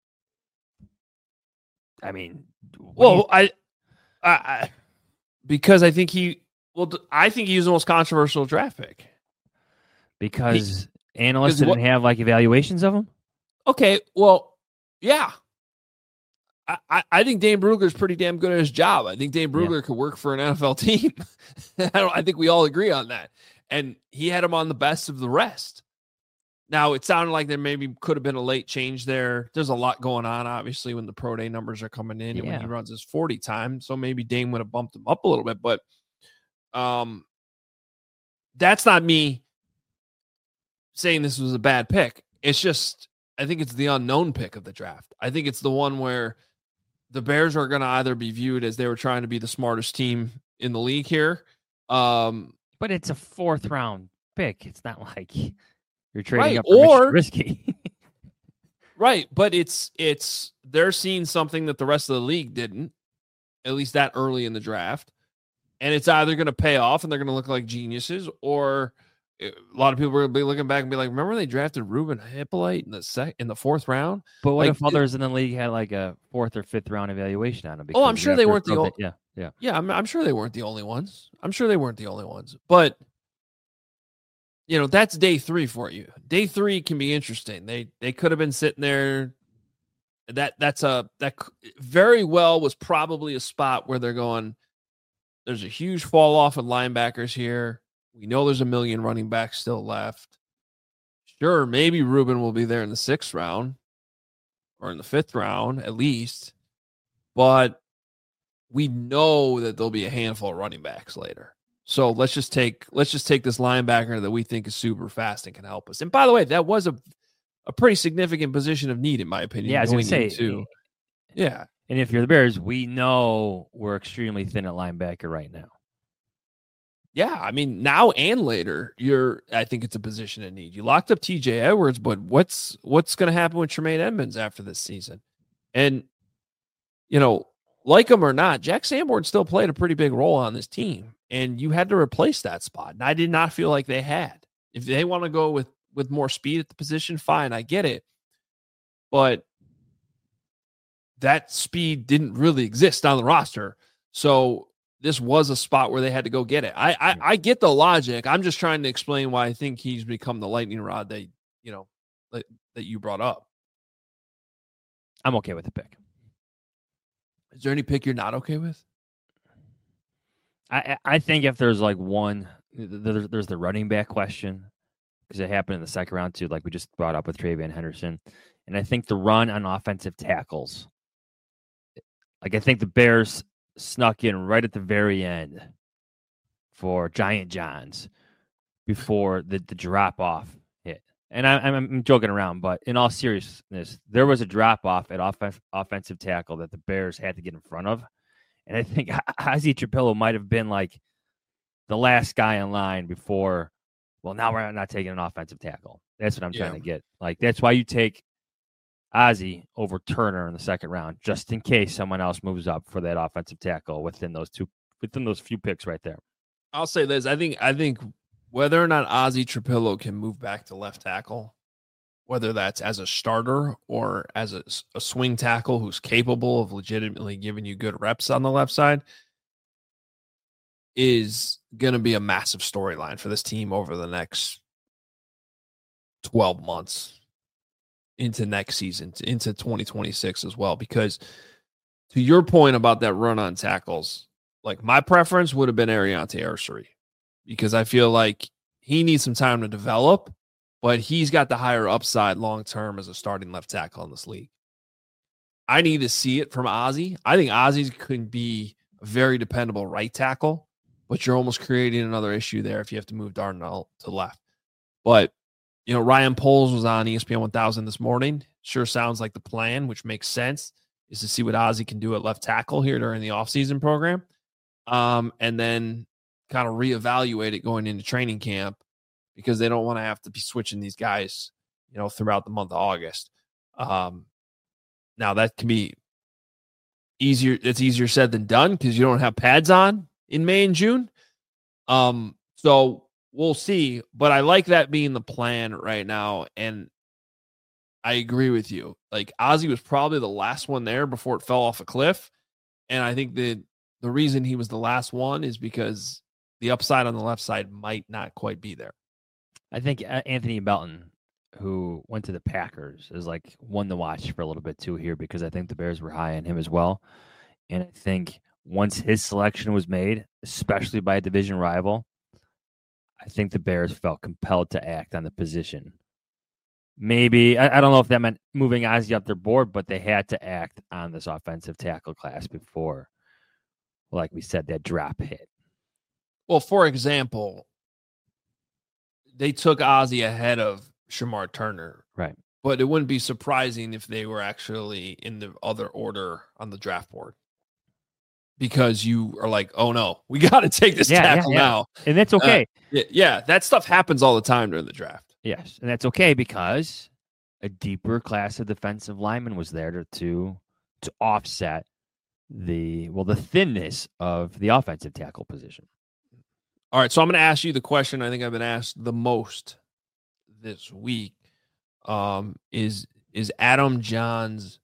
I mean, well, you, I, I, I, because I think he, well, I think he was the most controversial draft pick because he, analysts didn't what, have like evaluations of him. Okay, well, yeah, I, I, I think Dane Brugler's pretty damn good at his job. I think Dane Brugler yeah. could work for an N F L team. I don't. I think we all agree on that. And he had him on the best of the rest. Now, it sounded like there maybe could have been a late change there. There's a lot going on, obviously, when the pro day numbers are coming in yeah. and when he runs his forty time. So maybe Dame would have bumped him up a little bit. But um, that's not me saying this was a bad pick. It's just, I think it's the unknown pick of the draft. I think it's the one where the Bears are going to either be viewed as they were trying to be the smartest team in the league here. Um, but it's a fourth round pick. It's not like... You're trading right. up for or risky. Right. But it's, it's, they're seeing something that the rest of the league didn't, at least that early in the draft. And it's either going to pay off and they're going to look like geniuses, or a lot of people are going to be looking back and be like, remember they drafted Ruben Hippolyte in the sec in the fourth round? But what like, if others it, in the league had like a fourth or fifth round evaluation on him? Oh, I'm sure they weren't the only, yeah. Yeah. Yeah. I'm, I'm sure they weren't the only ones. I'm sure they weren't the only ones, but you know, that's day three for you. Day three can be interesting. They they could have been sitting there. That that's a that very well was probably a spot where they're going, there's a huge fall off in linebackers here. We know there's a million running backs still left. Sure, maybe Ruben will be there in the sixth round or in the fifth round at least. But we know that there'll be a handful of running backs later. So let's just take let's just take this linebacker that we think is super fast and can help us. And by the way, that was a a pretty significant position of need, in my opinion. Yeah, I was going to say. Into, yeah. And if you're the Bears, we know we're extremely thin at linebacker right now. Yeah, I mean, now and later, you're. I think it's a position of need. You locked up T J Edwards, but what's what's going to happen with Tremaine Edmonds after this season? And, you know, like him or not, Jack Sanborn still played a pretty big role on this team, and you had to replace that spot. And I did not feel like they had. If they want to go with, with more speed at the position, fine, I get it. But that speed didn't really exist on the roster. So this was a spot where they had to go get it. I, I I get the logic. I'm just trying to explain why I think he's become the lightning rod that, you know, that, that you brought up. I'm okay with the pick. Is there any pick you're not okay with? I I think if there's like one, there's, there's the running back question, because it happened in the second round too, like we just brought up with Travion Henderson. And I think the run on offensive tackles, like I think the Bears snuck in right at the very end for Giant Johns before the, the drop off hit. And I, I'm joking around, but in all seriousness, there was a drop off at off- offensive tackle that the Bears had to get in front of. And I think Ozzie Trapillo might have been like the last guy in line before, well, now we're not taking an offensive tackle. That's what I'm Yeah. trying to get. Like, that's why you take Ozzie over Turner in the second round, just in case someone else moves up for that offensive tackle within those two, within those few picks right there. I'll say this. I think I think whether or not Ozzie Trapillo can move back to left tackle, whether that's as a starter or as a, a swing tackle who's capable of legitimately giving you good reps on the left side, is going to be a massive storyline for this team over the next twelve months into next season, into twenty twenty-six as well. Because to your point about that run on tackles, like my preference would have been Ariante Arcery, because I feel like he needs some time to develop, but he's got the higher upside long-term as a starting left tackle in this league. I need to see it from Ozzie. I think Ozzie could be a very dependable right tackle, but you're almost creating another issue there if you have to move Darnell to left. But, you know, Ryan Poles was on E S P N one thousand this morning. Sure sounds like the plan, which makes sense, is to see what Ozzie can do at left tackle here during the offseason program. Um, and then kind of reevaluate it going into training camp, because they don't want to have to be switching these guys, you know, throughout the month of August. Um, now that can be easier. It's easier said than done because you don't have pads on in May and June. Um, so we'll see, but I like that being the plan right now. And I agree with you. Like, Ozzie was probably the last one there before it fell off a cliff. And I think that the reason he was the last one is because the upside on the left side might not quite be there. I think Anthony Belton, who went to the Packers, is like one to watch for a little bit too here, because I think the Bears were high on him as well. And I think once his selection was made, especially by a division rival, I think the Bears felt compelled to act on the position. Maybe, I, I don't know if that meant moving Ozzie up their board, but they had to act on this offensive tackle class before, like we said, that drop hit. Well, for example, they took Ozzie ahead of Shamar Turner. Right. But it wouldn't be surprising if they were actually in the other order on the draft board, because you are like, oh no, we got to take this yeah, tackle yeah, yeah. now. And that's okay. Uh, yeah, yeah, that stuff happens all the time during the draft. Yes. And that's okay, because a deeper class of defensive linemen was there to, to, to offset the, well, the thinness of the offensive tackle position. All right, so I'm going to ask you the question I think I've been asked the most this week. Um, is is Adam Johns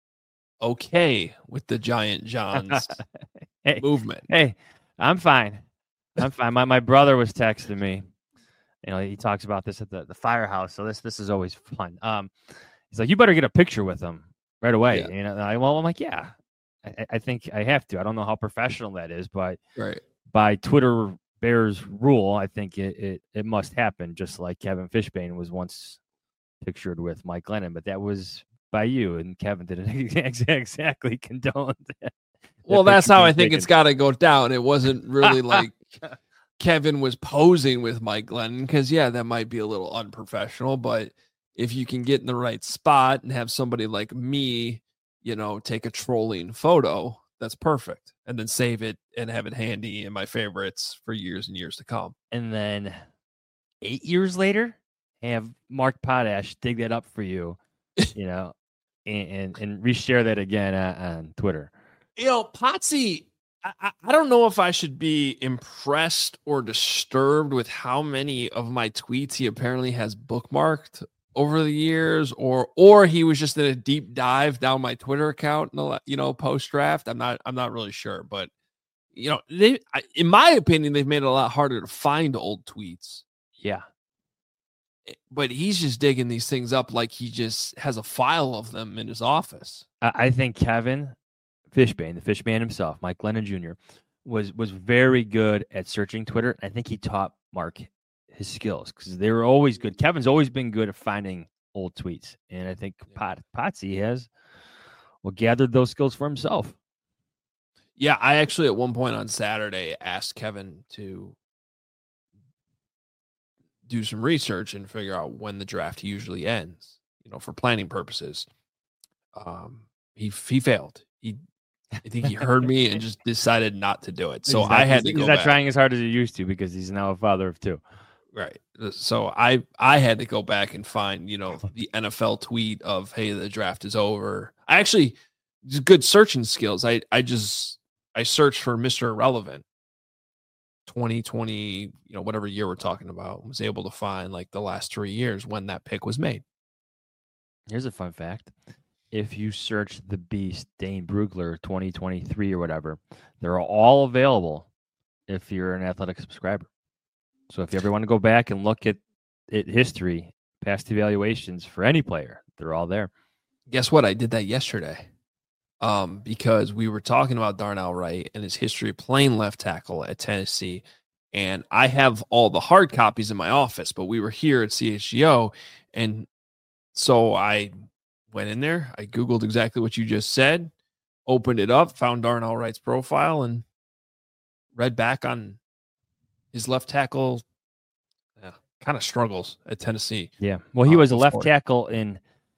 okay with the Giant Johns hey, movement? Hey, I'm fine. I'm fine. My my brother was texting me. You know, he talks about this at the, the firehouse, so this this is always fun. Um, he's like, you better get a picture with him right away. Yeah. You know, I, well, I'm like, yeah, I, I think I have to. I don't know how professional that is, but Right. by Twitter Bears rule, I think it, it it must happen, just like Kevin Fishbane was once pictured with Mike Glennon, but that was by you, and Kevin didn't exactly condone that. Well, that's how I think it's got to go down. It wasn't really like Kevin was posing with Mike Glennon because, yeah, that might be a little unprofessional, but if you can get in the right spot and have somebody like me, you know, take a trolling photo, that's perfect. And then save it and have it handy in my favorites for years and years to come. And then eight years later, have Mark Potash dig that up for you, you know, and, and, and reshare that again uh, on Twitter. You know, Potsy, I, I don't know if I should be impressed or disturbed with how many of my tweets he apparently has bookmarked over the years, or or he was just in a deep dive down my Twitter account, you know, post draft. I'm not I'm not really sure, but you know, they, I, in my opinion, they've made it a lot harder to find old tweets. Yeah, but he's just digging these things up like he just has a file of them in his office. I, I think Kevin Fishbane, the Fishman himself, Mike Glennon Junior, was was very good at searching Twitter. I think he taught Mark his skills because they were always good. Kevin's always been good at finding old tweets, and I think Pot Potsy has well gathered those skills for himself. Yeah, I actually at one point on Saturday asked Kevin to do some research and figure out when the draft usually ends, you know, for planning purposes. Um, he he failed. He I think he heard me and just decided not to do it. So not, I had to he's go He's not back. trying as hard as he used to because he's now a father of two. Right. So I I had to go back and find, you know, the N F L tweet of, hey, the draft is over. I actually, good searching skills. I, I just, I searched for Mister Irrelevant twenty twenty, you know, whatever year we're talking about, was able to find like the last three years when that pick was made. Here's a fun fact. If you search the Beast, Dane Brugler, twenty twenty-three or whatever, they're all available if you're an Athletic subscriber. So if you ever want to go back and look at it, history, past evaluations for any player, they're all there. Guess what? I did that yesterday um, because we were talking about Darnell Wright and his history playing left tackle at Tennessee. And I have all the hard copies in my office, but we were here at C H G O. And so I went in there. I Googled exactly what you just said, opened it up, found Darnell Wright's profile, and read back on his left tackle yeah, kind of struggles at Tennessee. Yeah. Well, he was uh, a left before. tackle in,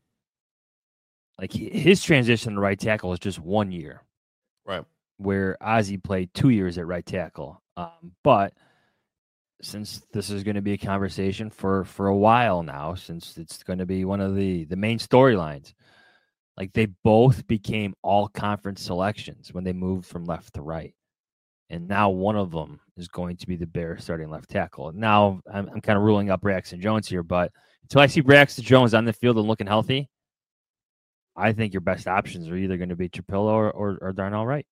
like, his transition to right tackle was just one year. Right. Where Ozzie played two years at right tackle. Um, but since this is going to be a conversation for, for a while now, since it's going to be one of the, the main storylines, like, they both became all conference selections when they moved from left to right. And now one of them is going to be the Bears starting left tackle. Now I'm, I'm kind of ruling out Braxton Jones here, but until I see Braxton Jones on the field and looking healthy, I think your best options are either going to be Trapillo or, or, or Darnell Wright.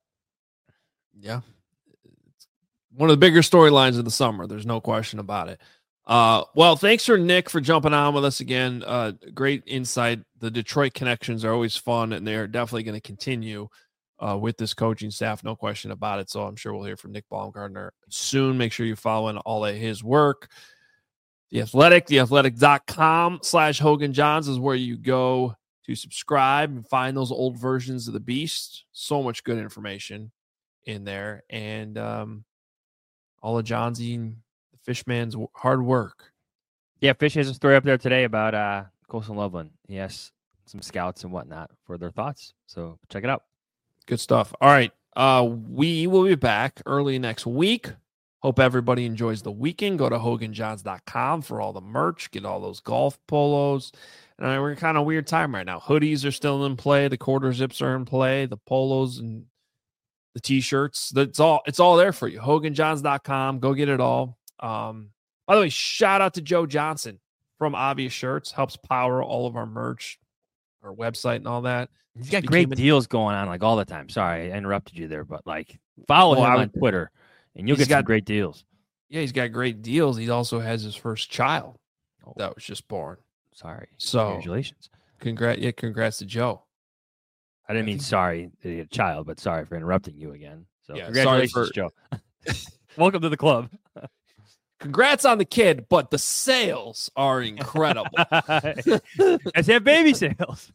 Yeah. It's one of the bigger storylines of the summer. There's no question about it. Uh, well, thanks for Nick for jumping on with us again. Uh, great insight. The Detroit connections are always fun, and they're definitely going to continue Uh, with this coaching staff, no question about it. So I'm sure we'll hear from Nick Baumgartner soon. Make sure you're following all of his work. The Athletic, theathletic.com slash Hogan Johns is where you go to subscribe and find those old versions of the Beast. So much good information in there. And um, all of Johnsy and the Fishman's hard work. Yeah, Fish has a story up there today about uh, Colson Loveland. He has some scouts and whatnot for their thoughts. So check it out. Good stuff. All right. Uh, we will be back early next week. Hope everybody enjoys the weekend. Go to Hogan Johns dot com for all the merch. Get all those golf polos. And I mean, we're kind of weird time right now. Hoodies are still in play. The quarter zips are in play. The polos and the T-shirts. That's all. It's all there for you. Hogan Johns dot com. Go get it all. Um, by the way, shout out to Joe Johnson from Obvious Shirts. Helps power all of our merch, our website, and all that. He's got great deals going on, like, all the time. Sorry, I interrupted you there, but, like, follow well, him would, on Twitter, and you'll get got some great deals. Yeah, he's got great deals. He also has his first child Oh, that was just born. sorry. So, Congratulations. Congrats, yeah, congrats to Joe. I didn't mean sorry that he had a child, but sorry for interrupting you again. So, Yeah, congratulations, sorry for- Joe. Welcome to the club. Congrats on the kid, but the sales are incredible. Let's have baby sales.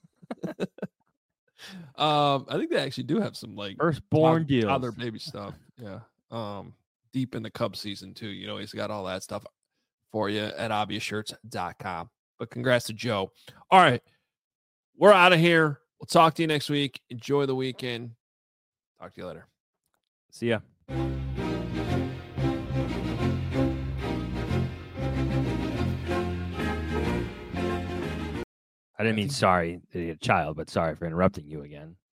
um, I think they actually do have some like Firstborn tod- deals. toddler baby stuff. Yeah. Um, deep in the Cubs season too. You know, he's got all that stuff for you at obvious shirts dot com. But congrats to Joe. All right, we're out of here. We'll talk to you next week. Enjoy the weekend. Talk to you later. See ya. I didn't mean sorry, idiot child, but sorry for interrupting you again.